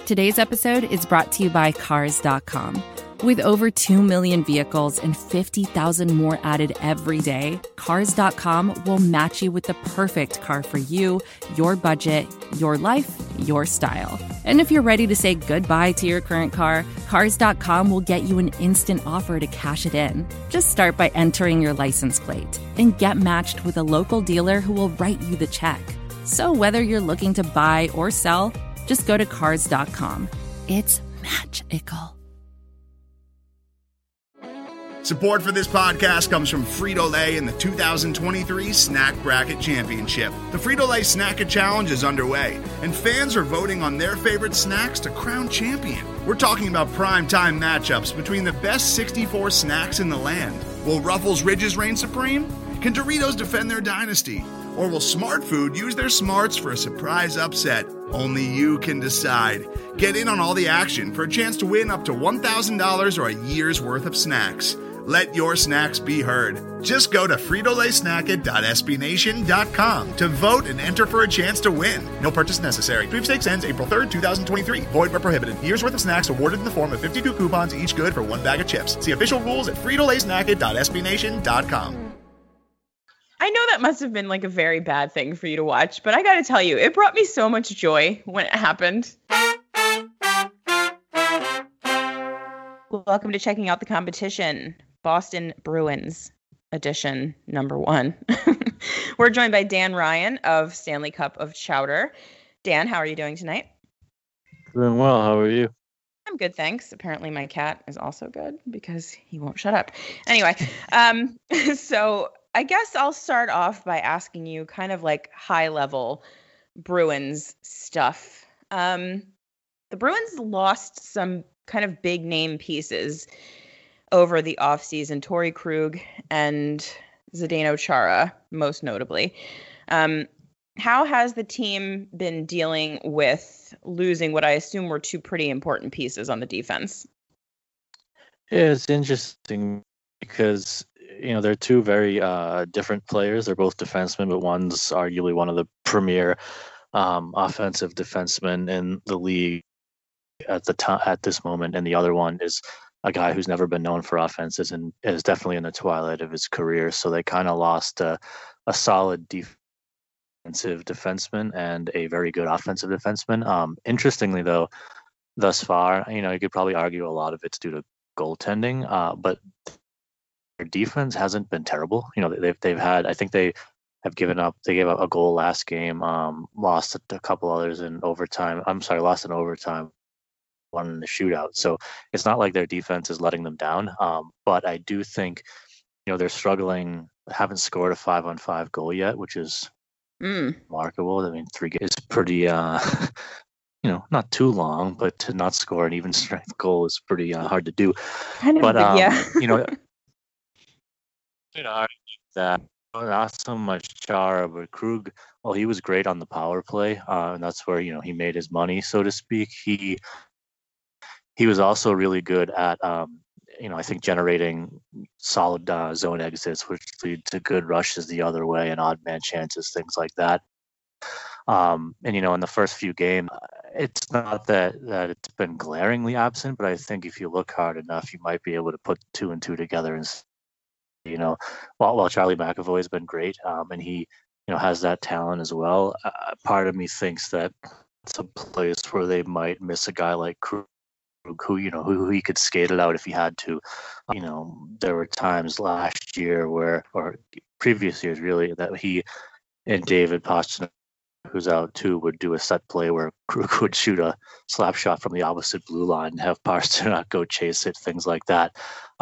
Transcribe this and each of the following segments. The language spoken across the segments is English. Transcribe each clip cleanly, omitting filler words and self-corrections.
Today's episode is brought to you by Cars.com. With over 2 million vehicles and 50,000 more added every day, Cars.com will match you with the perfect car for you, your budget, your life, your style. And if you're ready to say goodbye to your current car, Cars.com will get you an instant offer to cash it in. Just start by entering your license plate and get matched with a local dealer who will write you the check. So whether you're looking to buy or sell, just go to Cars.com. It's magical. Support for this podcast comes from Frito-Lay and the 2023 Snack Bracket Championship. The Frito-Lay Snack Challenge is underway, and fans are voting on their favorite snacks to crown champion. We're talking about prime-time matchups between the best 64 snacks in the land. Will Ruffles Ridges reign supreme? Can Doritos defend their dynasty? Or will Smart Food use their smarts for a surprise upset? Only you can decide. Get in on all the action for a chance to win up to $1,000 or a year's worth of snacks. Let your snacks be heard. Just go to fritolaysnacket.sbnation.com to vote and enter for a chance to win. No purchase necessary. Sweepstakes ends April 3rd, 2023. Void where prohibited. Year's worth of snacks awarded in the form of 52 coupons, each good for one bag of chips. See official rules at fritolaysnacket.sbnation.com. I know that must have been like a very bad thing for you to watch, but I got to tell you, it brought me so much joy when it happened. Welcome to Checking Out the Competition, Boston Bruins edition number 1. We're joined by Dan Ryan of Stanley Cup of Chowder. Dan, how are you doing tonight? Doing well. How are you? I'm good, thanks. Apparently my cat is also good because he won't shut up. Anyway, so I guess I'll start off by asking you kind of like high level Bruins stuff. The Bruins lost some kind of big name pieces over the offseason, Torrey Krug and Zdeno Chara, most notably. How has the team been dealing with losing what I assume were two pretty important pieces on the defense? Yeah, it's interesting because, they're two very different players. They're both defensemen, but one's arguably one of the premier offensive defensemen in the league at this moment, and the other one is a guy who's never been known for offenses and is definitely in the twilight of his career. So they kind of lost a solid defensive defenseman and a very good offensive defenseman. Interestingly, though, thus far, you could probably argue a lot of it's due to goaltending, but their defense hasn't been terrible. They've had, I think they gave up a goal last game, lost a couple others in overtime. Lost in overtime, one in the shootout. So it's not like their defense is letting them down. But I do think, they're struggling, haven't scored a 5-on-5 goal yet, which is remarkable. I mean, 3 is pretty, not too long, but to not score an even strength goal is pretty hard to do. That not so much Chara, but Krug. Well, he was great on the power play, and that's where he made his money, so to speak. He was also really good at I think generating solid zone exits, which lead to good rushes the other way and odd man chances, things like that. And in the first few games, it's not that it's been glaringly absent, but I think if you look hard enough, you might be able to put 2 and 2 together and. While Charlie McAvoy has been great, and he, has that talent as well, part of me thinks that it's a place where they might miss a guy like Krug, who he could skate it out if he had to. There were times last year or previous years really, that he and David Pastrnak, who's out too, would do a set play where Krug would shoot a slap shot from the opposite blue line and have Pastrnak go chase it, things like that.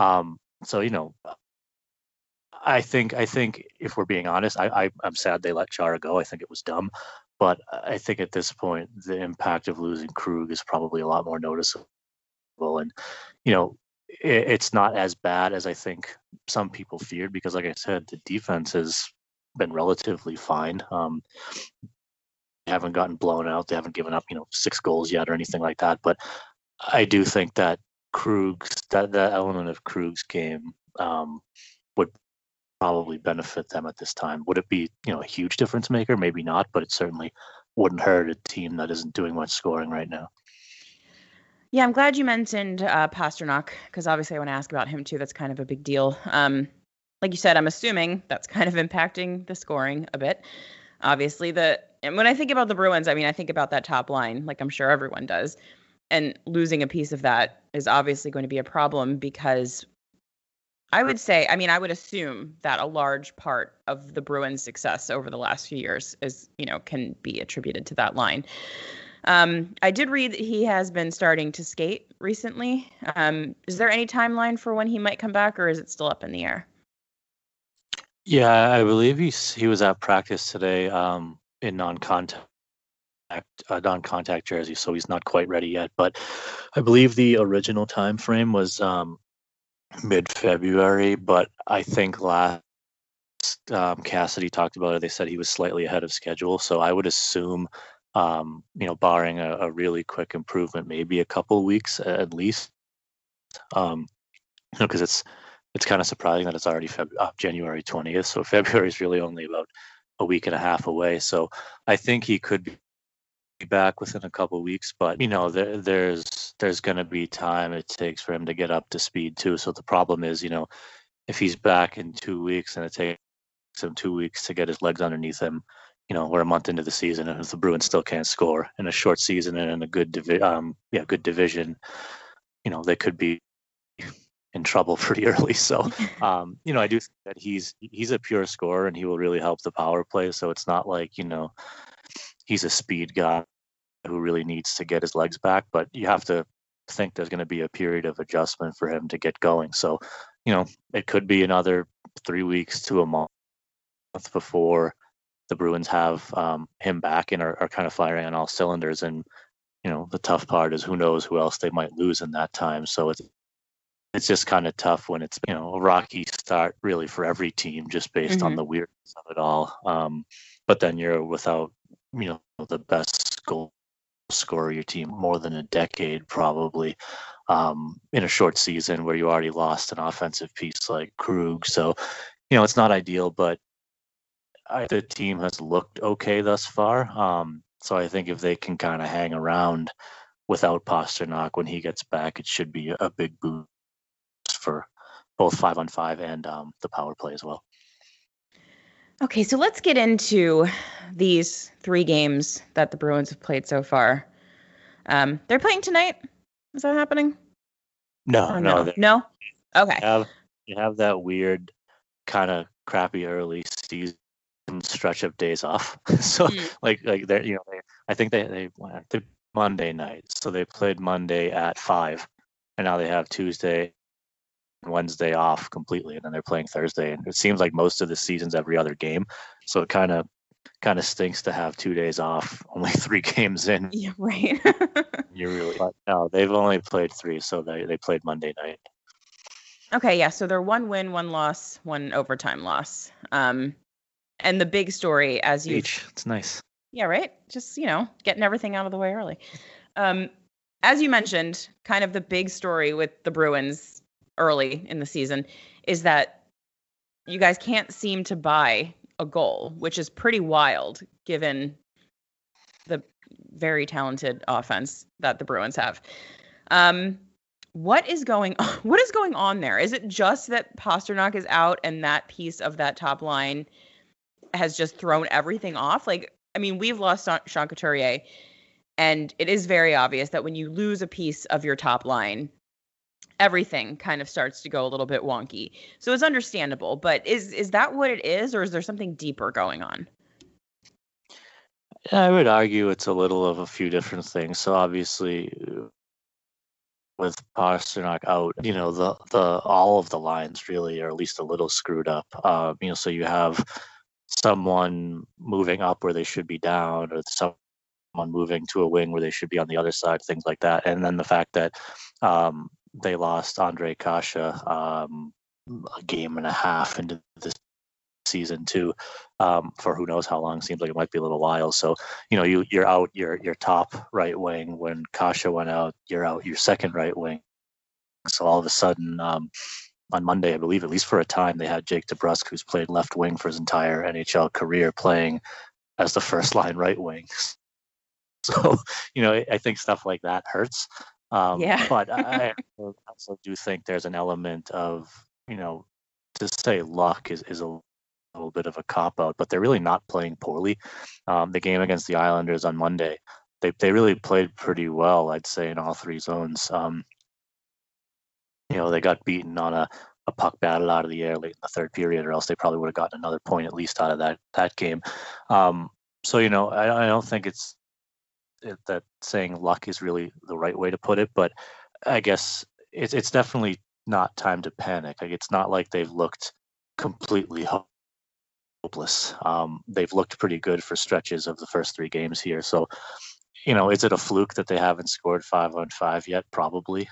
I think if we're being honest, I'm sad they let Chara go. I think it was dumb, but I think at this point the impact of losing Krug is probably a lot more noticeable. And it's not as bad as I think some people feared, because, like I said, the defense has been relatively fine. They haven't gotten blown out. They haven't given up 6 goals yet or anything like that. But I do think that that element of Krug's game would probably benefit them at this time. Would it be, a huge difference maker? Maybe not, but it certainly wouldn't hurt a team that isn't doing much scoring right now. Yeah, I'm glad you mentioned Pasternak, because obviously I want to ask about him too. That's kind of a big deal. Like you said, I'm assuming that's kind of impacting the scoring a bit. Obviously, and when I think about the Bruins, I mean, I think about that top line, like I'm sure everyone does. And losing a piece of that is obviously going to be a problem, because I would assume that a large part of the Bruins' success over the last few years can be attributed to that line. I did read that he has been starting to skate recently. Is there any timeline for when he might come back, or is it still up in the air? Yeah, I believe he was at practice today in non-contact jersey, so he's not quite ready yet. But I believe the original time frame was mid-February, but I think last Cassidy talked about it. They said he was slightly ahead of schedule, so I would assume, barring a really quick improvement, maybe a couple weeks at least. Because it's kind of surprising that it's already January 20th, so February is really only about a week and a half away. So I think he could be back within a couple of weeks, but there's going to be time it takes for him to get up to speed too. So the problem is, if he's back in 2 weeks and it takes him 2 weeks to get his legs underneath him, we're a month into the season, and if the Bruins still can't score in a short season and in a good division, they could be in trouble pretty early. So, I do think that he's a pure scorer, and he will really help the power play. So it's not like, he's a speed guy who really needs to get his legs back, but you have to think there's going to be a period of adjustment for him to get going. So, it could be another 3 weeks to a month before the Bruins have him back and are kind of firing on all cylinders. And, the tough part is who knows who else they might lose in that time. So it's just kind of tough when it's, a rocky start really for every team, just based on the weirdness of it all. But then you're without, the best goal scorer your team more than a decade, probably, in a short season where you already lost an offensive piece like Krug. So, it's not ideal, but the team has looked okay thus far. So I think if they can kind of hang around without Pasternak when he gets back, it should be a big boost for both 5-on-5 and the power play as well. Okay, so let's get into these 3 games that the Bruins have played so far. They're playing tonight? Is that happening? No. No? Okay. You have that weird kind of crappy early season stretch of days off. So like they're, I think they went Monday night. So they played Monday at 5, and now they have Tuesday and Wednesday off completely, and then they're playing Thursday. And it seems like most of the season's every other game. So it kind of stinks to have 2 days off, only 3 games in. Yeah, right. But no, they've only played 3, so they played Monday night. Okay, yeah. So they're 1 win, 1 loss, 1 overtime loss. And the big story, as you each, it's nice. Yeah, right. Just getting everything out of the way early. As you mentioned, kind of the big story with the Bruins early in the season is that you guys can't seem to buy a goal, which is pretty wild given the very talented offense that the Bruins have. What is going on there? Is it just that Pasternak is out and that piece of that top line has just thrown everything off? We've lost Sean Couturier, and it is very obvious that when you lose a piece of your top line, everything kind of starts to go a little bit wonky. So it's understandable, but is that what it is, or is there something deeper going on? I would argue it's a little of a few different things. So obviously, with Pasternak out, the all of the lines really are at least a little screwed up. So you have someone moving up where they should be down, or someone moving to a wing where they should be on the other side, things like that. And then the fact that they lost Ondrej Kase a game and a half into this season too, for who knows how long. Seems like it might be a little while. So you're out your top right wing. When Kase went out, you're out your second right wing. So all of a sudden, on Monday, I believe, at least for a time, they had Jake DeBrusk, who's played left wing for his entire NHL career, playing as the first line right wing. So I think stuff like that hurts. Yeah. But I also do think there's an element of, to say luck is a little bit of a cop out, but they're really not playing poorly. The game against the Islanders on Monday, they really played pretty well, I'd say, in all three zones. They got beaten on a puck battle out of the air late in the third period, or else they probably would have gotten another point at least out of that game. So I don't think that saying luck is really the right way to put it, but I guess it's definitely not time to panic. Like, it's not like they've looked completely hopeless. They've looked pretty good for stretches of the first three games here. So, is it a fluke that they haven't scored 5-on-5 yet? Probably.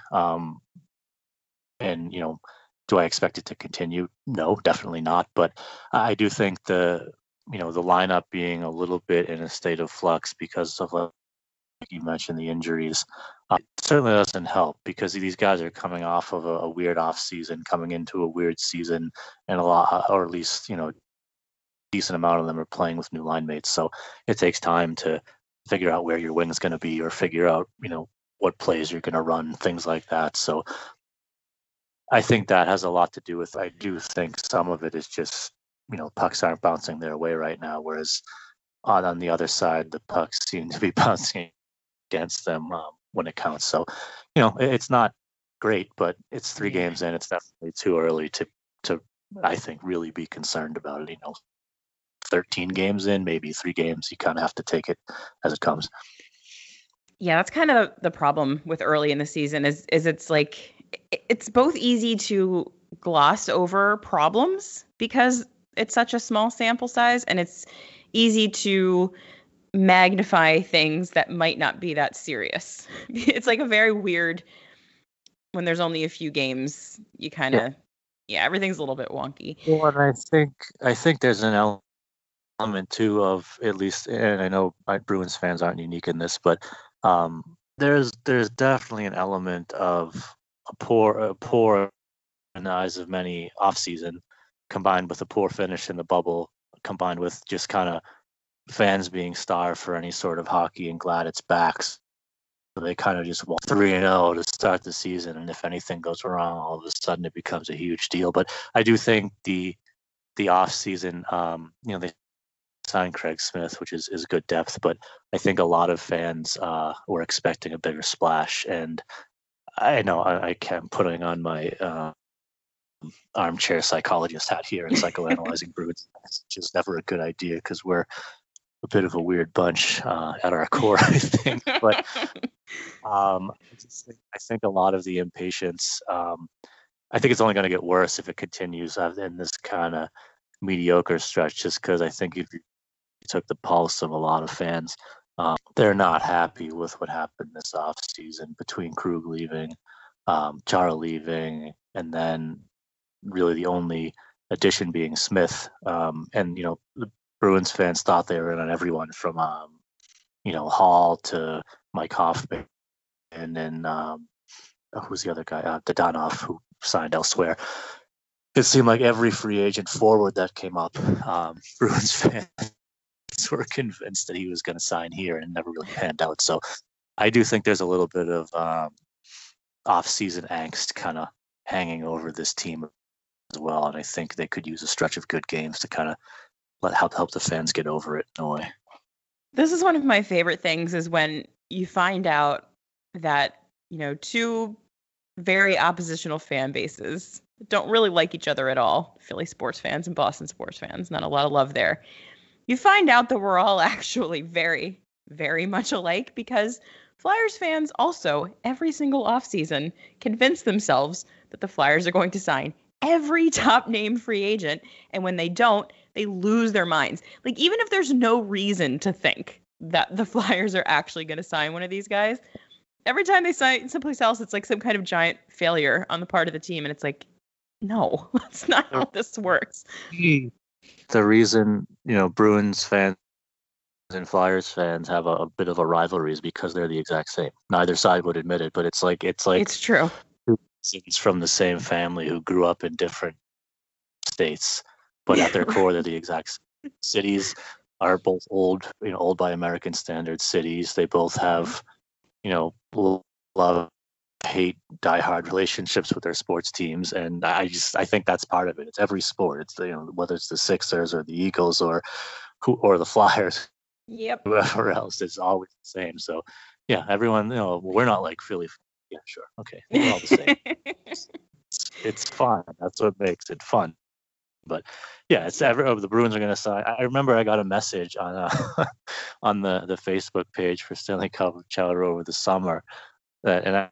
And do I expect it to continue? No, definitely not. But I do think the lineup being a little bit in a state of flux because of, like you mentioned, the injuries, it certainly doesn't help, because these guys are coming off of a weird off season, coming into a weird season, and a lot, or at least decent amount of them are playing with new line mates. So it takes time to figure out where your wing's going to be, or figure out what plays you're going to run, things like that. So I think that has a lot to do with. I do think some of it is just pucks aren't bouncing their way right now, whereas on the other side, the pucks seem to be bouncing against them when it counts. So, it's not great, but it's 3 games in. It's definitely too early to I think really be concerned about it. 13 games in, maybe 3 games, you kind of have to take it as it comes. Yeah, that's kind of the problem with early in the season is it's like it's both easy to gloss over problems because it's such a small sample size, and it's easy to magnify things that might not be that serious. It's like a very weird, when there's only a few games, you kind of, everything's a little bit wonky. Well, and I think there's an element too of, at least, and I know Bruins fans aren't unique in this, but there's definitely an element of a poor in the eyes of many off season, combined with a poor finish in the bubble, combined with just kind of fans being starved for any sort of hockey and glad it's back. So they kind of just want 3-0 to start the season, and if anything goes wrong, all of a sudden it becomes a huge deal. But I do think the off season, they signed Craig Smith, which is good depth, but I think a lot of fans were expecting a bigger splash, and I know I kept putting on my armchair psychologist hat here and psychoanalyzing Bruins, which is never a good idea because we're a bit of a weird bunch at our core, I think. But I think a lot of the impatience, I think it's only going to get worse if it continues in this kind of mediocre stretch, just because I think if you took the pulse of a lot of fans, they're not happy with what happened this offseason between Krug leaving, Chara leaving, and then really the only addition being Smith. And, the Bruins fans thought they were in on everyone from, Hall to Mike Hoffman, and then who's the other guy? Dadonov, who signed elsewhere. It seemed like every free agent forward that came up, Bruins fans were convinced that he was going to sign here, and never really panned out. So I do think there's a little bit of off-season angst kind of hanging over this team as well, and I think they could use a stretch of good games to kind of help the fans get over it in a way. This is one of my favorite things, is when you find out that, two very oppositional fan bases don't really like each other at all. Philly sports fans and Boston sports fans, not a lot of love there. You find out that we're all actually very, very much alike, because Flyers fans also, every single offseason, convince themselves that the Flyers are going to sign every top name free agent, and when they don't, they lose their minds. Like, even if there's no reason to think that the Flyers are actually going to sign one of these guys, every time they sign someplace else, it's like some kind of giant failure on the part of the team, and it's like, no, that's not how this works. The reason, Bruins fans and Flyers fans have a bit of a rivalry is because they're the exact same. Neither side would admit it, but it's true. It's from the same family who grew up in different states, but at their core, they're the exact same. Cities are both old by American standards cities. They both have, love diehard relationships with their sports teams, and I think that's part of it. It's every sport. It's whether it's the Sixers or the Eagles or the Flyers, Yep. whoever else, it's always the same. So yeah, everyone, we're not like Philly. Yeah, sure, okay, we're all the same. It's fun. That's what makes it fun. But yeah, the Bruins are going to sign. I remember I got a message on on the Facebook page for Stanley Cup Chowder over the summer, and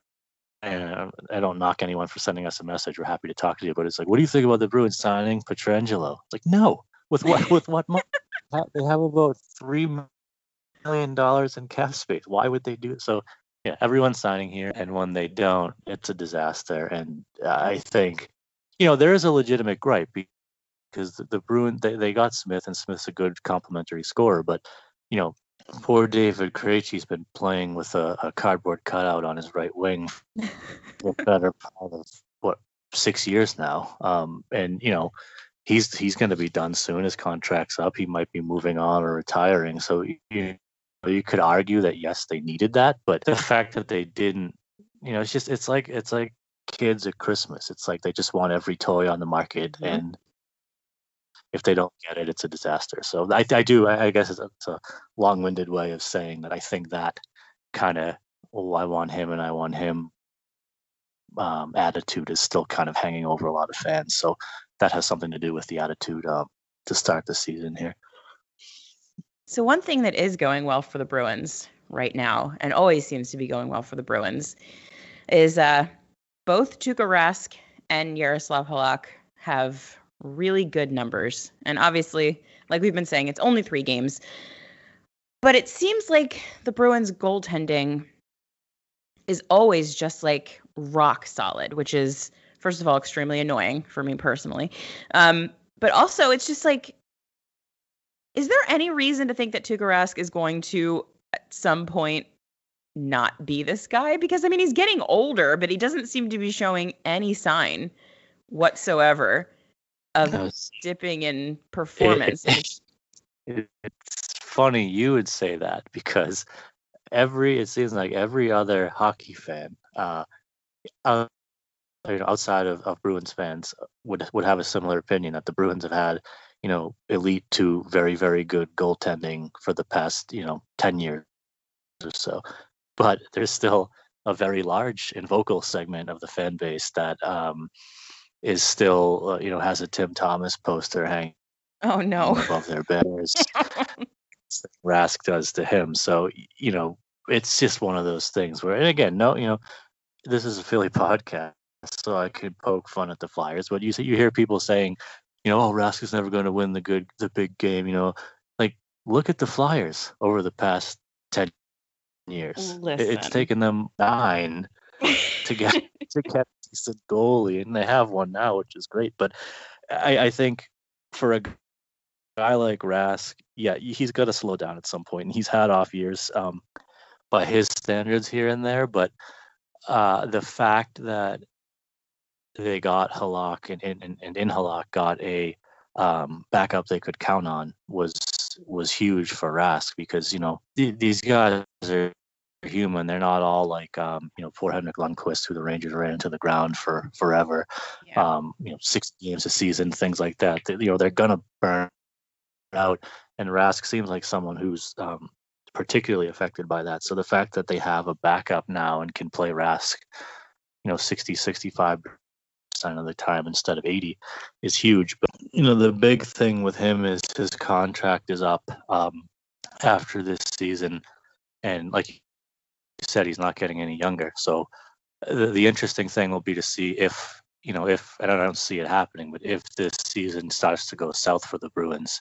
I don't knock anyone for sending us a message. We're happy to talk to you, but it's like, what do you think about the Bruins signing Pietrangelo? It's like, no, with what money? They have about $3 million in cap space. Why would they do it? So yeah, everyone's signing here, and when they don't, it's a disaster. And I think there is a legitimate gripe because the Bruins, they got Smith, and Smith's a good complementary scorer, but poor David Krejci's been playing with a cardboard cutout on his right wing for the better part of 6 years now. And he's going to be done soon. His contract's up. He might be moving on or retiring. So you could argue that yes, they needed that, but the fact that they didn't, it's like kids at Christmas. It's like they just want every toy on the market, and if they don't get it, it's a disaster. So I guess it's a long-winded way of saying that I think that kind of, I want him and I want him attitude is still kind of hanging over a lot of fans. So that has something to do with the attitude to start the season here. So one thing that is going well for the Bruins right now, and always seems to be going well for the Bruins, is both Tuukka Rask and Jaroslav Halak have really good numbers. And obviously, like we've been saying, it's only 3 games. But it seems like the Bruins goaltending is always just like rock solid, which is, first of all, extremely annoying for me personally. But also, it's just like, is there any reason to think that Tuukka Rask is going to, at some point, not be this guy? Because, I mean, he's getting older, but he doesn't seem to be showing any sign whatsoever of dipping in performance. It's funny you would say that, because it seems like every other hockey fan outside of Bruins fans would have a similar opinion that the Bruins have had elite to very, very good goaltending for the past 10 years or so, but there's still a very large and vocal segment of the fan base that is still has a Tim Thomas poster hanging above their beds. Rask does to him. So it's just one of those things where, and again, this is a Philly podcast, so I could poke fun at the Flyers, but you hear people saying, oh, Rask is never going to win the big game. Like, look at the Flyers over the past 10 years. It's taken them 9 to get a decent goalie, and they have one now, which is great. But I think for a guy like Rask, yeah, he's got to slow down at some point, and he's had off years by his standards here and there. But the fact that they got Halak and in Halak got a backup they could count on was huge for Rask, because these guys are human. They're not all like poor Henrik Lundqvist, who the Rangers ran into the ground for forever. 6 games a season, things like that. They're gonna burn out, and Rask seems like someone who's particularly affected by that. So the fact that they have a backup now and can play Rask 60-65% of the time instead of 80 is huge. But the big thing with him is his contract is up after this season, and like you said, he's not getting any younger. So the interesting thing will be to see if and I don't see it happening, but if this season starts to go south for the Bruins,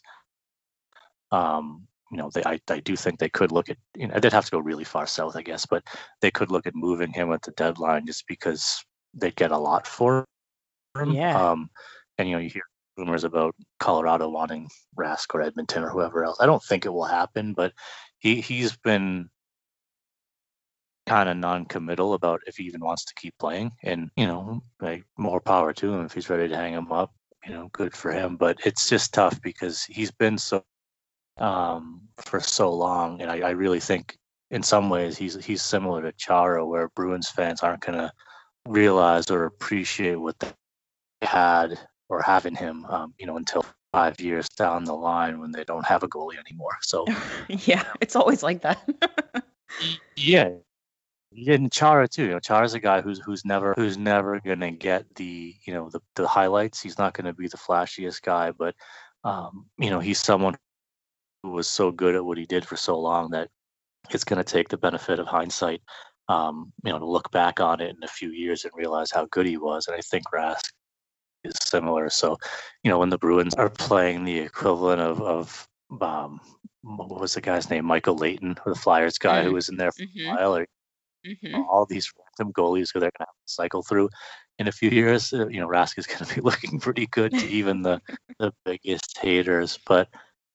I do think they could look at, they'd have to go really far south, I guess, but they could look at moving him at the deadline, just because they'd get a lot for him. Yeah. And you hear rumors about Colorado wanting Rask or Edmonton or whoever else. I don't think it will happen, but he's been kind of non-committal about if he even wants to keep playing, and like, more power to him if he's ready to hang him up. Good for him, but it's just tough because he's been so for so long, and I really think in some ways he's similar to Chara, where Bruins fans aren't gonna realize or appreciate what they had or have in him, until 5 years down the line when they don't have a goalie anymore. So Yeah, it's always like that. yeah, and Chara too. Chara's a guy who's never gonna get the the highlights. He's not gonna be the flashiest guy, but he's someone who was so good at what he did for so long that it's gonna take the benefit of hindsight, to look back on it in a few years and realize how good he was. And I think Rask is similar. So, when the Bruins are playing the equivalent of what was the guy's name? Michael Leighton, the Flyers guy who was in there for a while, or all these random goalies who they're going to have to cycle through in a few years. Rask is going to be looking pretty good to even the biggest haters. But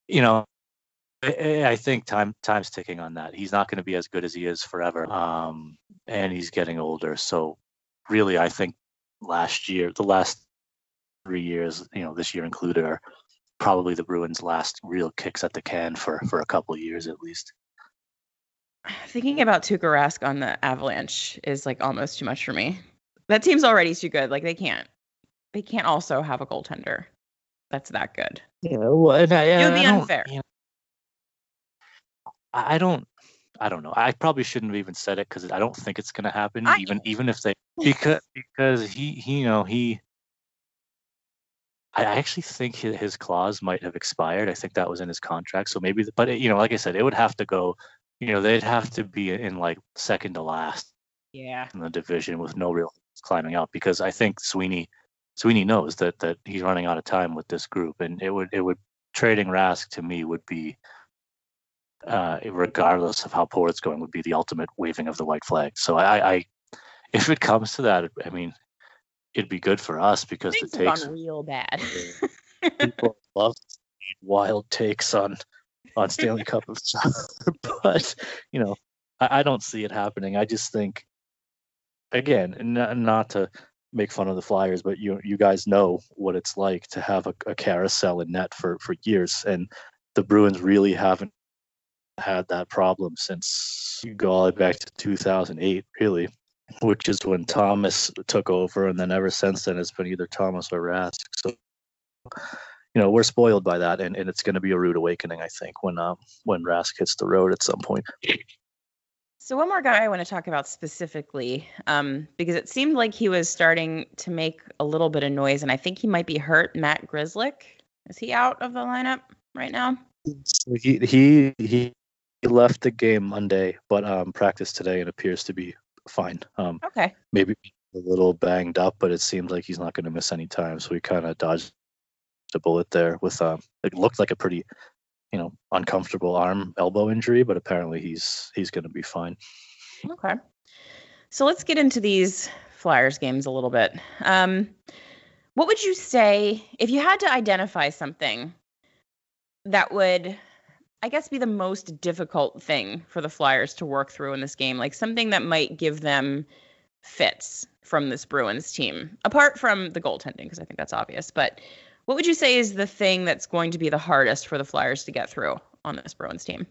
I think time's ticking on that. He's not going to be as good as he is forever, and he's getting older. So really, I think the last 3 years, this year included, are probably the Bruins' last real kicks at the can for a couple of years at least. Thinking about Tuukka Rask on the Avalanche is like almost too much for me. That team's already too good. Like they can't also have a goaltender that's that good. Yeah, well, and it would be unfair. I don't know. I probably shouldn't have even said it because I don't think it's going to happen. Even if they because he. I actually think his clause might have expired. I think that was in his contract. So maybe, but like I said, it would have to go. They'd have to be in like second to last. Yeah. In the division with no real climbing up, because I think Sweeney knows that he's running out of time with this group, and it would trading Rask to me would be, regardless of how poor it's going, would be the ultimate waving of the white flag. So I if it comes to that, I mean, it'd be good for us because Things have gone real bad. People love wild takes on Stanley Cup of soccer, but I don't see it happening. I just think, again, not to make fun of the Flyers, but you guys know what it's like to have a carousel in net for years, and the Bruins really haven't had that problem since you go all the way back to 2008, really, which is when Thomas took over, and then ever since then it's been either Thomas or Rask. So we're spoiled by that, and it's going to be a rude awakening, I think, when Rask hits the road at some point. So one more guy I want to talk about specifically, because it seemed like he was starting to make a little bit of noise, and I think he might be hurt. Matt Grzelcyk, is he out of the lineup right now? So he left the game Monday, but practiced today and appears to be fine. Okay. Maybe a little banged up, but it seems like he's not going to miss any time. So he kind of dodged a bullet there with it looked like a pretty uncomfortable elbow injury, but apparently he's going to be fine. Okay. So let's get into these Flyers games a little bit. What would you say if you had to identify something that would, I guess, be the most difficult thing for the Flyers to work through in this game, like something that might give them fits from this Bruins team, apart from the goaltending, because I think that's obvious, but what would you say is the thing that's going to be the hardest for the Flyers to get through on this Bruins team?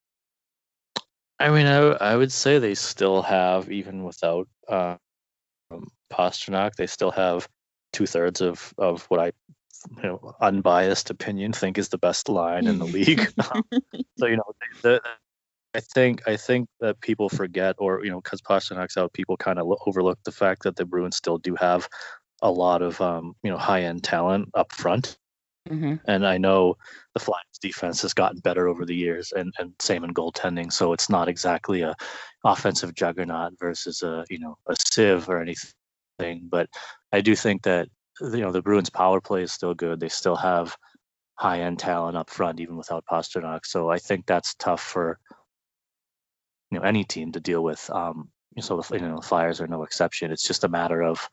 I mean, I would say they still have, even without Pastrnak, they still have 2/3 of what I, unbiased opinion, think is the best line in the league. So I think that people forget, or because Pasternak's out, people kind of overlook the fact that the Bruins still do have a lot of high-end talent up front. Mm-hmm. And I know the Flyers defense has gotten better over the years, and same in goaltending. So it's not exactly a offensive juggernaut versus a sieve or anything. But I do think that the Bruins power play is still good. They still have high-end talent up front, even without Pastrnak. So I think that's tough for any team to deal with. So the Flyers are no exception. It's just a matter of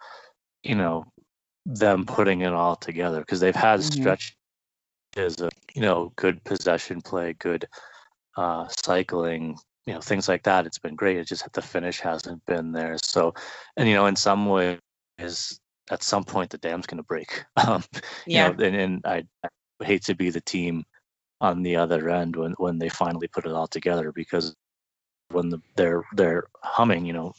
them putting it all together, because they've had stretches of good possession play, good cycling, things like that. It's been great. It's just that the finish hasn't been there. So, and in some ways, at some point the dam's going to break. And I hate to be the team on the other end when they finally put it all together, because when they're humming,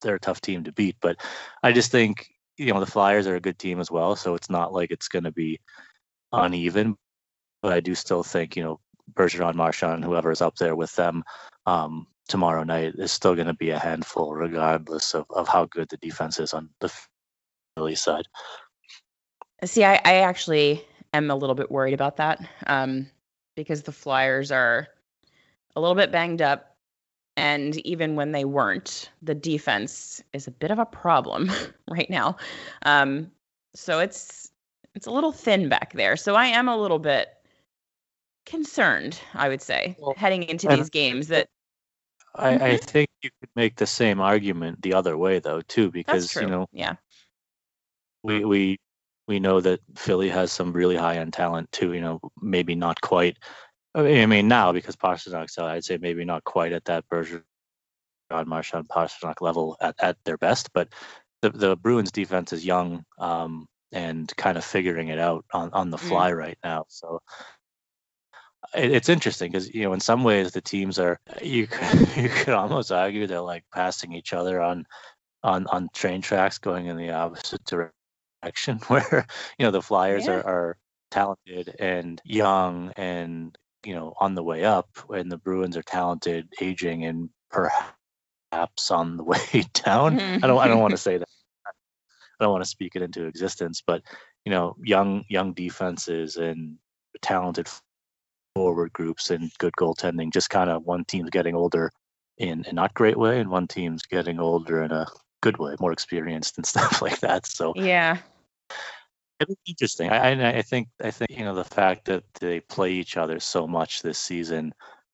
they're a tough team to beat. But I just think, the Flyers are a good team as well, so it's not like it's going to be uneven. But I do still think, Bergeron, Marchand, whoever is up there with them tomorrow night is still going to be a handful, regardless of how good the defense is on the Philly side. See, I actually am a little bit worried about that because the Flyers are a little bit banged up. And even when they weren't, the defense is a bit of a problem right now. So it's a little thin back there. So I am a little bit concerned, I would say, heading into these games. That I think you could make the same argument the other way, though, too, because, yeah, we know that Philly has some really high-end talent, too, maybe not quite. I mean, now, because Pasternak's out, I'd say maybe not quite at that Bergeron, Marchand, Pasternak level at their best, but the Bruins defense is young and kind of figuring it out on the fly right now. So it's interesting because, in some ways the teams are, you could almost argue they're like passing each other on train tracks going in the opposite direction, where, the Flyers are talented and young and, on the way up, and the Bruins are talented, aging, and perhaps on the way down. I don't want to say that. I don't want to speak it into existence, but young defenses and talented forward groups and good goaltending. Just kind of one team's getting older in a not great way, and one team's getting older in a good way, more experienced and stuff like that. So yeah. It's interesting. I think the fact that they play each other so much this season,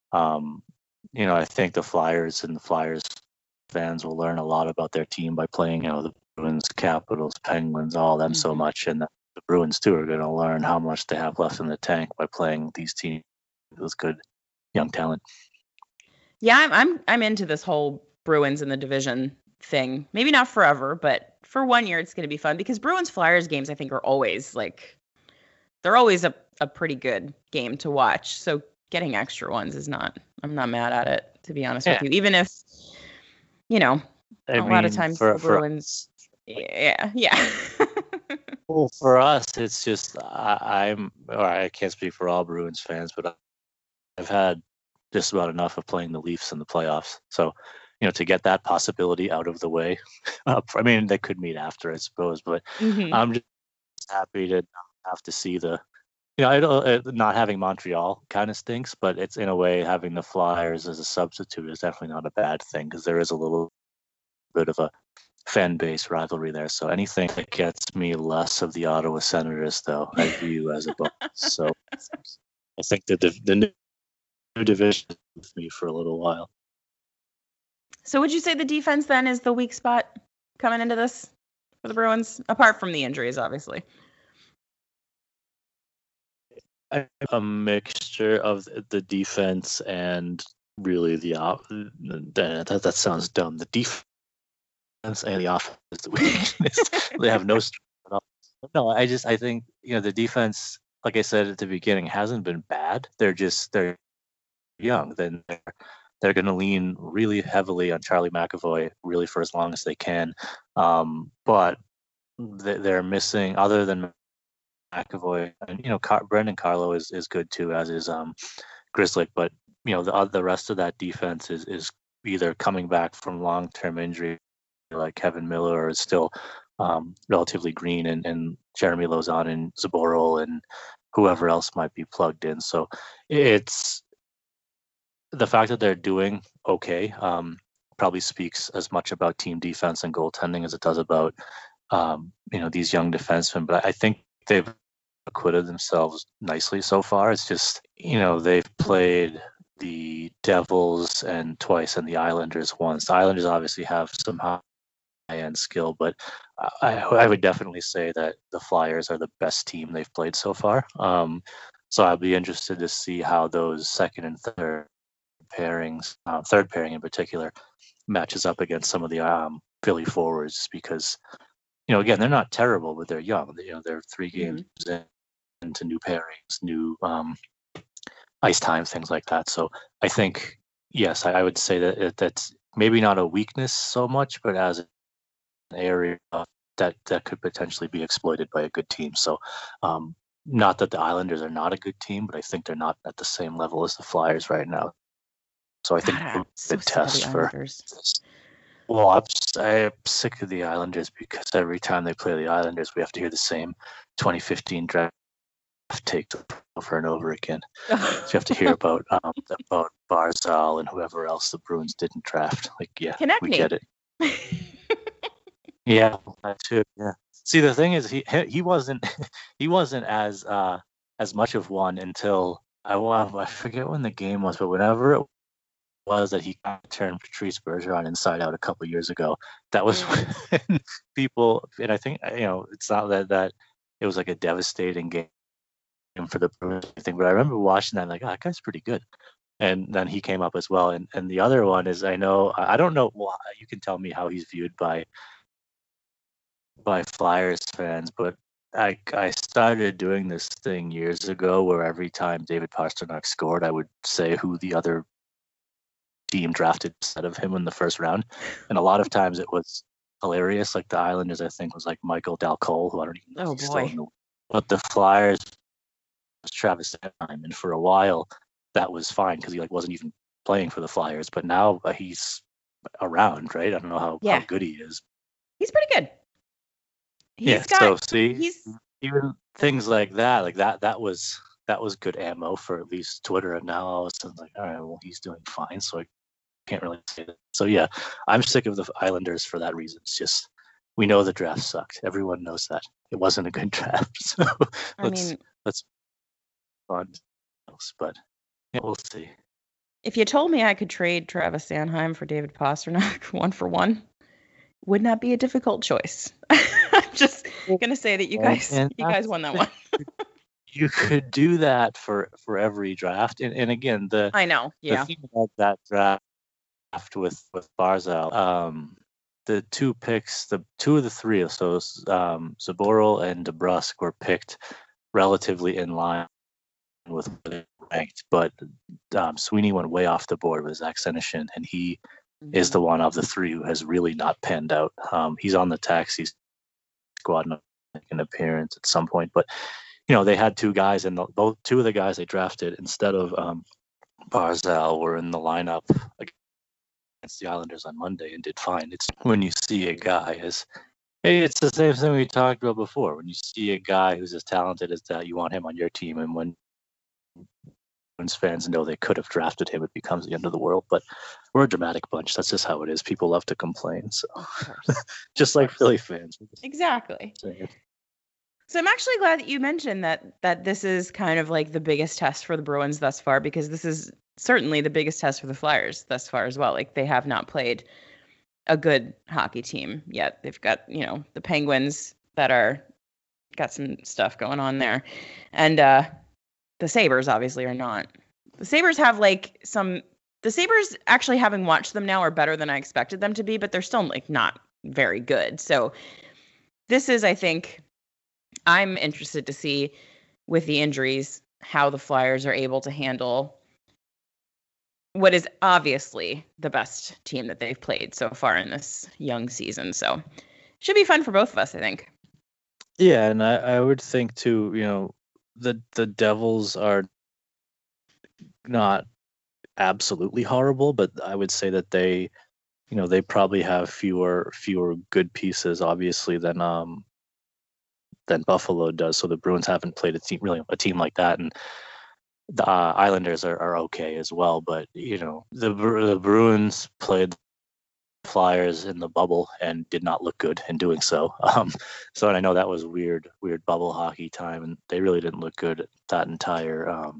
I think the Flyers and the Flyers fans will learn a lot about their team by playing, the Bruins, Capitals, Penguins, all of them so much, and the Bruins too are going to learn how much they have left in the tank by playing these teams with good young talent. Yeah, I'm into this whole Bruins in the division thing. Maybe not forever, but for 1 year it's going to be fun, because Bruins Flyers games, I think, are always they're always a pretty good game to watch. So getting extra ones I'm not mad at it, to be honest with you. Even if, a lot of times the Bruins. Yeah. Well, for us, it's just I can't speak for all Bruins fans, but I've had just about enough of playing the Leafs in the playoffs. So, to get that possibility out of the way, I mean, they could meet after, I suppose, but I'm just happy to have to see not having Montreal kind of stinks, but it's, in a way, having the Flyers as a substitute is definitely not a bad thing, because there is a little bit of a fan base rivalry there. So anything that gets me less of the Ottawa Senators, though, I view as a bonus. So I think that the new division is with me for a little while. So would you say the defense then is the weak spot coming into this for the Bruins, apart from the injuries, obviously? A mixture of the defense and really that sounds dumb. The defense and the offense is the weakness. They have no strength at all. No, I think the defense, like I said at the beginning, hasn't been bad. They're young. Then they're going to lean really heavily on Charlie McAvoy really for as long as they can. But they're missing, other than McAvoy, and Brendan Carlo is good too, as is Grzelcyk. But the rest of that defense is either coming back from long-term injury, like Kevin Miller, or is still relatively green, and Jeremy Lauzon and Zaboral and whoever else might be plugged in. So it's the fact that they're doing okay probably speaks as much about team defense and goaltending as it does about these young defensemen. But I think they've acquitted themselves nicely so far. It's just, they've played the Devils and twice and the Islanders once. The Islanders obviously have some high-end skill, but I would definitely say that the Flyers are the best team they've played so far. So I'll be interested to see how those second and third pairings, third pairing in particular, matches up against some of the Philly forwards, because again, they're not terrible, but they're young. They're 3 games into new pairings, new ice time, things like that. So I think, yes, I would say that maybe not a weakness so much, but as an area that could potentially be exploited by a good team. So, not that the Islanders are not a good team, but I think they're not at the same level as the Flyers right now. So I think God, the test for. Well, I'm sick of the Islanders because every time they play the Islanders, we have to hear the same 2015 draft take over and over again. So you have to hear about Barzal and whoever else the Bruins didn't draft. Like, yeah, we get it. Yeah, that too. Yeah. See, the thing is, he wasn't as much of one until I forget when the game was, but whenever it was that he turned Patrice Bergeron inside out a couple of years ago, that was when people, and I think it's not that it was like a devastating game for the Bruins thing, but I remember watching that like, oh, that guy's pretty good. And then he came up as well. And the other one is, I don't know, well, you can tell me how he's viewed by Flyers fans, but I started doing this thing years ago where every time David Pastrnak scored, I would say who the other team drafted instead of him in the first round. And a lot of times it was hilarious. Like the Islanders, I think, was like Michael Dal Cole, who I don't even know. Oh, boy. But the Flyers was Travis Sanheim, and for a while that was fine because he wasn't even playing for the Flyers. But now he's around, right? I don't know how good he is. He's pretty good. So see, even things like that was good ammo for at least Twitter. And now all of a sudden, like, all right, well, he's doing fine, so I can't really say that. So yeah, I'm sick of the Islanders for that reason. It's just, we know the draft sucked. Everyone knows that it wasn't a good draft. So let's fun else, but yeah, we'll see. If you told me I could trade Travis Sanheim for David Pastrnak 1-for-1, would not be a difficult choice. I'm just gonna say that you guys won that one. You could do that for every draft, and again, I know, yeah. The thing about that draft with Barzal, the two picks, the two of the three, so Zaboral and DeBrusk were picked relatively in line with where they ranked, but Sweeney went way off the board with Zach Senyshyn, and he is the one of the three who has really not panned out. He's on the taxi squad and an appearance at some point, but they had two guys, and two of the guys they drafted instead of Barzal were in the lineup against the Islanders on Monday and did fine. It's when you see a guy it's the same thing we talked about before. When you see a guy who's as talented as that, you want him on your team, and when fans know they could have drafted him, it becomes the end of the world. But we're a dramatic bunch. That's just how it is. People love to complain. So just like Philly fans. Exactly. So I'm actually glad that you mentioned that this is kind of like the biggest test for the Bruins thus far, because this is certainly the biggest test for the Flyers thus far as well. Like, they have not played a good hockey team yet. They've got, the Penguins that are got some stuff going on there. And the Sabres obviously are not. The Sabres have the Sabres, actually, having watched them now, are better than I expected them to be, but they're still not very good. So this is, I think, I'm interested to see with the injuries how the Flyers are able to handle what is obviously the best team that they've played so far in this young season. So should be fun for both of us, I think. Yeah, and I would think too, the Devils are not absolutely horrible, but I would say that they probably have fewer good pieces, obviously, than Buffalo does. So the Bruins haven't played a team like that, and the Islanders are okay as well. But the Bruins played Flyers in the bubble and did not look good in doing so. So, and I know that was weird bubble hockey time, and they really didn't look good that entire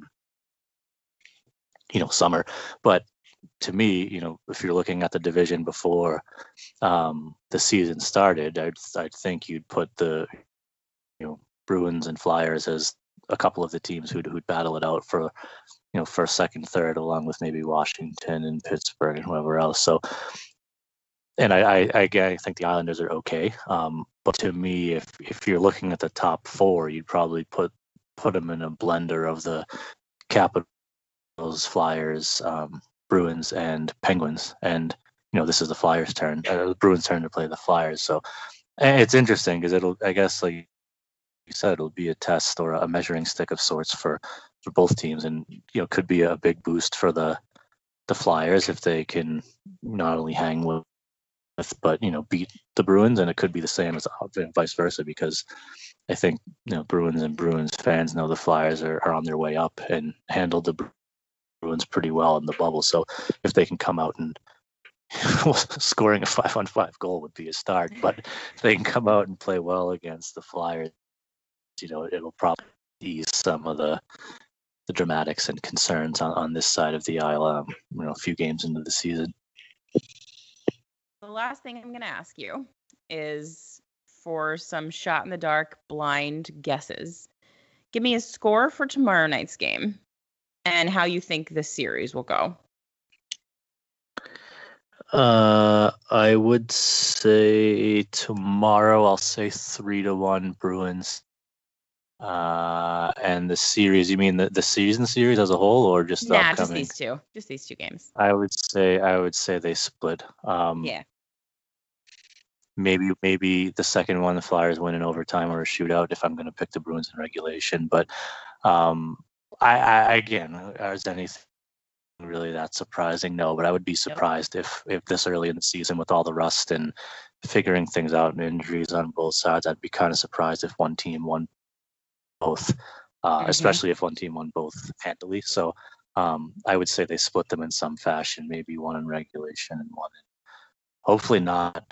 summer. But to me, if you're looking at the division before the season started, I'd think you'd put the Bruins and Flyers as a couple of the teams who'd battle it out for first, second, third, along with maybe Washington and Pittsburgh and whoever else. So. And I think the Islanders are okay. But to me, if you're looking at the top four, you'd probably put them in a blender of the Capitals, Flyers, Bruins, and Penguins. And this is the Flyers' turn, the Bruins' turn to play the Flyers. So it's interesting because I guess, like you said, it'll be a test or a measuring stick of sorts for both teams, and could be a big boost for the Flyers if they can not only hang with but beat the Bruins, and it could be the same as vice versa, because I think Bruins and Bruins fans know the Flyers are on their way up and handled the Bruins pretty well in the bubble. So if they can come out and scoring a 5-on-5 goal would be a start, but if they can come out and play well against the Flyers, it'll probably ease some of the dramatics and concerns on this side of the aisle, a few games into the season. The last thing I'm going to ask you is for some shot in the dark, blind guesses. Give me a score for tomorrow night's game and how you think this series will go. I would say tomorrow, I'll say 3-1 Bruins. And the series, you mean the season series as a whole, or just the upcoming? Just these two games. I would say they split. Yeah. Maybe the second one the Flyers win in overtime or a shootout if I'm going to pick the Bruins in regulation. But I again, is anything really that surprising? No, but I would be surprised if this early in the season, with all the rust and figuring things out and injuries on both sides, I'd be kind of surprised if one team won both, especially if one team won both handily. So I would say they split them in some fashion, maybe one in regulation and one in, hopefully not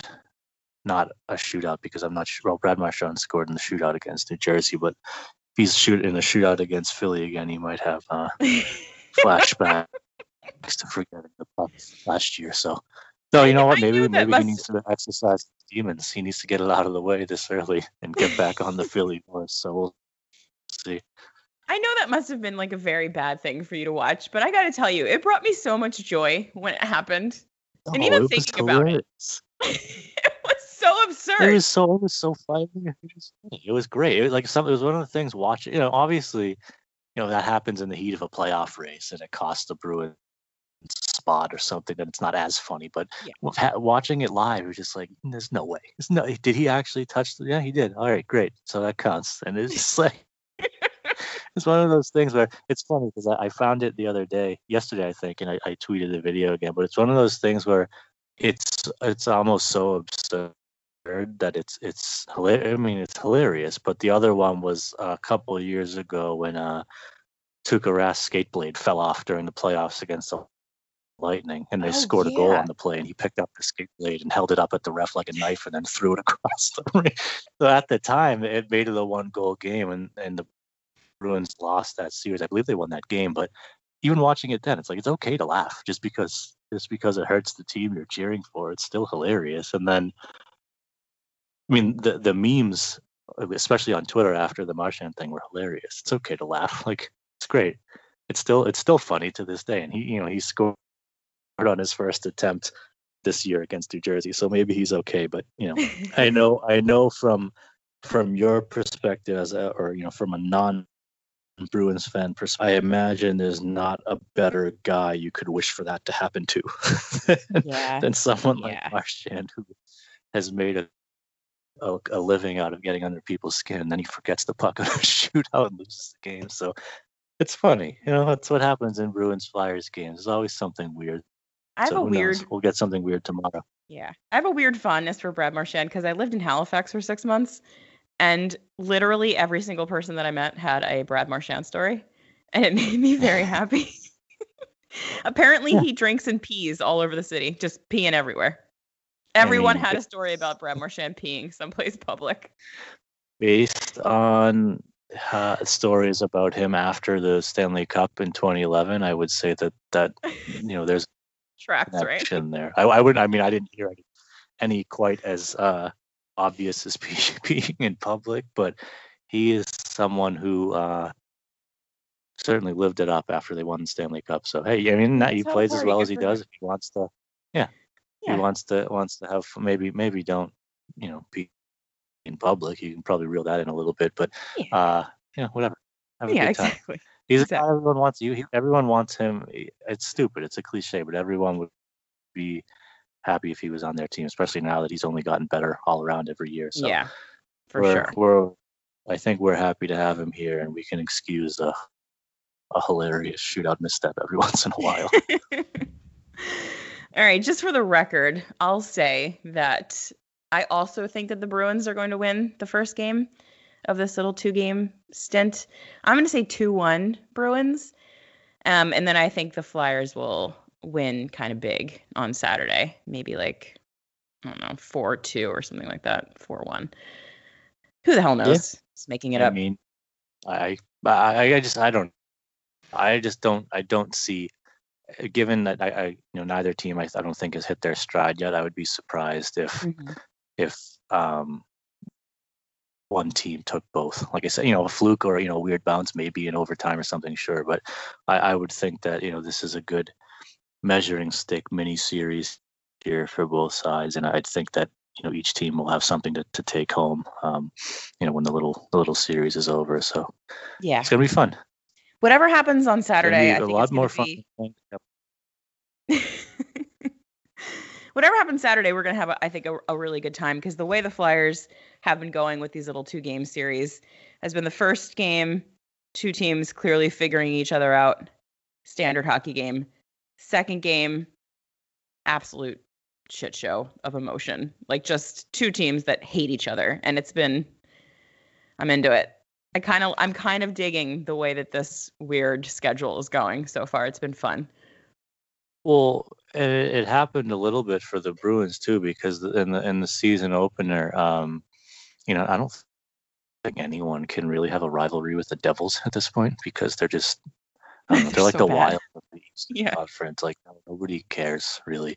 a shootout, because I'm not sure. Well, Brad Marchand scored in the shootout against New Jersey, but if he's in the shootout against Philly again, he might have flashbacks to forgetting the puck last year. So, no, you know what? Maybe he needs to exercise his demons. He needs to get it out of the way this early and get back on the Philly horse. So we'll see. I know that must have been like a very bad thing for you to watch, but I got to tell you, it brought me so much joy when it happened. And even thinking about it, it was so absurd. It was so funny. It was great. It was one of the things watching. Obviously, that happens in the heat of a playoff race, and it costs the Bruins spot or something. That it's not as funny. But watching it live, it was just like, there's no way. Did he actually touch? Yeah, he did. All right, great. So that counts. And it's just like. It's one of those things where it's funny because I found it the other day, yesterday, I think, and I tweeted the video again. But it's one of those things where it's almost so absurd that it's hilarious. I mean, it's hilarious. But the other one was a couple of years ago when Tuukka Rask's skate blade fell off during the playoffs against the Lightning, and they scored a goal on the play, and he picked up the skate blade and held it up at the ref like a knife, and then threw it across the ring. So at the time, it made it a 1-goal game, and the Bruins lost that series. I believe they won that game, but even watching it then, it's like, it's okay to laugh just because it hurts the team you're cheering for. It's still hilarious. And then, I mean, the memes, especially on Twitter after the Marchand thing, were hilarious. It's okay to laugh. Like, it's great. It's still funny to this day. And he scored on his first attempt this year against New Jersey, so maybe he's okay. But I know from your perspective from a non-Bruins fan perspective, I imagine there's not a better guy you could wish for that to happen to than someone like Marchand, who has made a living out of getting under people's skin, and then he forgets the puck in a shootout and loses the game. So it's funny. That's what happens in Bruins Flyers games. There's always something weird. We'll get something weird tomorrow. Yeah. I have a weird fondness for Brad Marchand because I lived in Halifax for 6 months, and literally every single person that I met had a Brad Marchand story, and it made me very happy. Apparently he drinks and pees all over the city, just peeing everywhere. Everyone had a story about Brad Marchand peeing someplace public. Based on stories about him after the Stanley Cup in 2011, I would say that there's tracks right there. I didn't hear any quite as obvious as peeing in public, but he is someone who certainly lived it up after they won the Stanley Cup. So hey, he plays as well as he does. If he wants to, he wants to have maybe don't pee in public. You can probably reel that in a little bit, but whatever. Have a good time. Exactly. He's a guy everyone wants. Everyone wants him. It's stupid. It's a cliche, but everyone would be happy if he was on their team, especially now that he's only gotten better all around every year. So yeah, for sure. I think we're happy to have him here, and we can excuse a hilarious shootout misstep every once in a while. All right, just for the record, I'll say that I also think that the Bruins are going to win the first game of this little 2-game stint. I'm going to say 2-1 Bruins. And then I think the Flyers will win kind of big on Saturday. Maybe like, I don't know, 4-2 or something like that. 4-1. Who the hell knows? Yeah. Just making it up. I mean, I don't see, given that I neither team I don't think has hit their stride yet. I would be surprised if one team took both. Like I said, a fluke or a weird bounce, maybe in overtime or something, sure. But I would think that this is a good measuring stick mini series here for both sides, and I'd think that each team will have something to take home. When the little series is over. So yeah, it's gonna be fun. Whatever happens on Saturday, I think a lot more fun. Whatever happens Saturday, we're going to have, I think, a really good time, because the way the Flyers have been going with these little 2-game series has been the first game, 2 teams clearly figuring each other out, standard hockey game. Second game, absolute shit show of emotion. Like just 2 teams that hate each other. And I'm into it. I'm kind of digging the way that this weird schedule is going so far. It's been fun. Well, it happened a little bit for the Bruins too, because in the season opener, I don't think anyone can really have a rivalry with the Devils at this point, because they're just, they're like so the bad. Wild of the Eastern Conference. Like nobody cares really.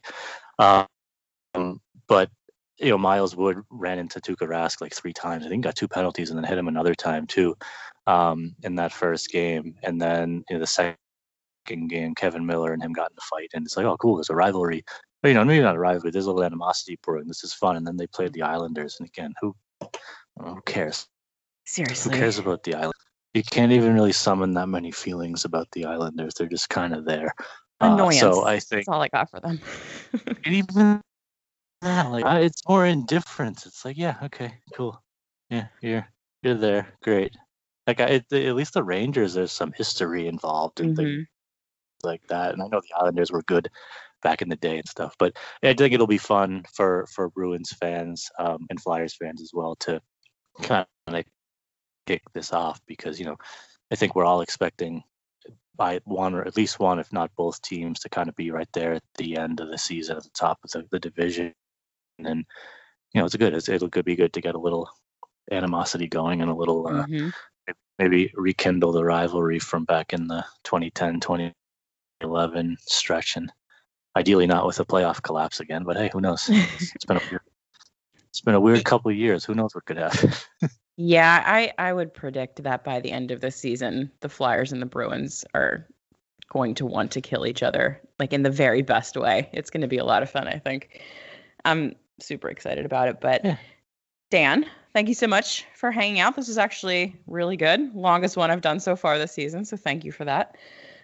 But Miles Wood ran into Tuukka Rask like 3 times. I think got 2 penalties and then hit him another time too, in that first game. And then the second game, Kevin Miller and him got in a fight, and it's like, oh cool, there's a rivalry. But maybe not a rivalry. There's a little animosity brewing. This is fun. And then they played the Islanders, and again, who cares? Seriously, who cares about the Islanders? You can't even really summon that many feelings about the Islanders. They're just kind of there. Annoyance. So I think that's all I got for them. And even that, it's more indifference. It's like, yeah, okay, cool. Yeah, you're there, great. Like at least the Rangers, there's some history involved and things like that. And I know the Islanders were good back in the day and stuff, but I think it'll be fun for Bruins fans and Flyers fans as well to kind of kick this off, because I think we're all expecting by one or at least one, if not both teams, to kind of be right there at the end of the season at the top of the division. And it'll be good to get a little animosity going and a little maybe rekindle the rivalry from back in the 2010-2011 stretch, and ideally not with a playoff collapse again, but hey, who knows? It's been a weird couple of years. Who knows what could happen? Yeah, I would predict that by the end of the season, the Flyers and the Bruins are going to want to kill each other, like in the very best way. It's going to be a lot of fun, I think. I'm super excited about it. But yeah. Dan, thank you so much for hanging out. This was actually really good. Longest one I've done so far this season, so thank you for that.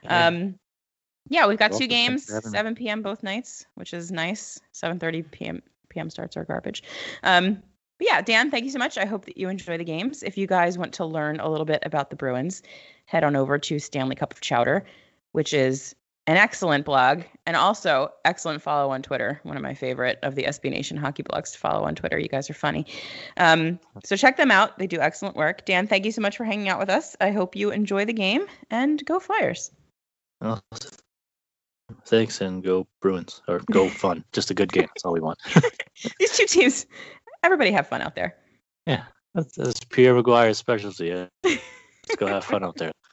Yeah, we've got 2 games, 7 p.m. both nights, which is nice. 7:30 p.m. starts are garbage. But yeah, Dan, thank you so much. I hope that you enjoy the games. If you guys want to learn a little bit about the Bruins, head on over to Stanley Cup of Chowder, which is an excellent blog and also excellent follow on Twitter. One of my favorite of the SB Nation hockey blogs to follow on Twitter. You guys are funny. So check them out. They do excellent work. Dan, thank you so much for hanging out with us. I hope you enjoy the game, and go Flyers. Well, thanks, and go Bruins, or go fun. Just a good game. That's all we want. These 2 teams, everybody have fun out there. Yeah, that's Pierre McGuire's specialty. Yeah. Let's go have fun out there.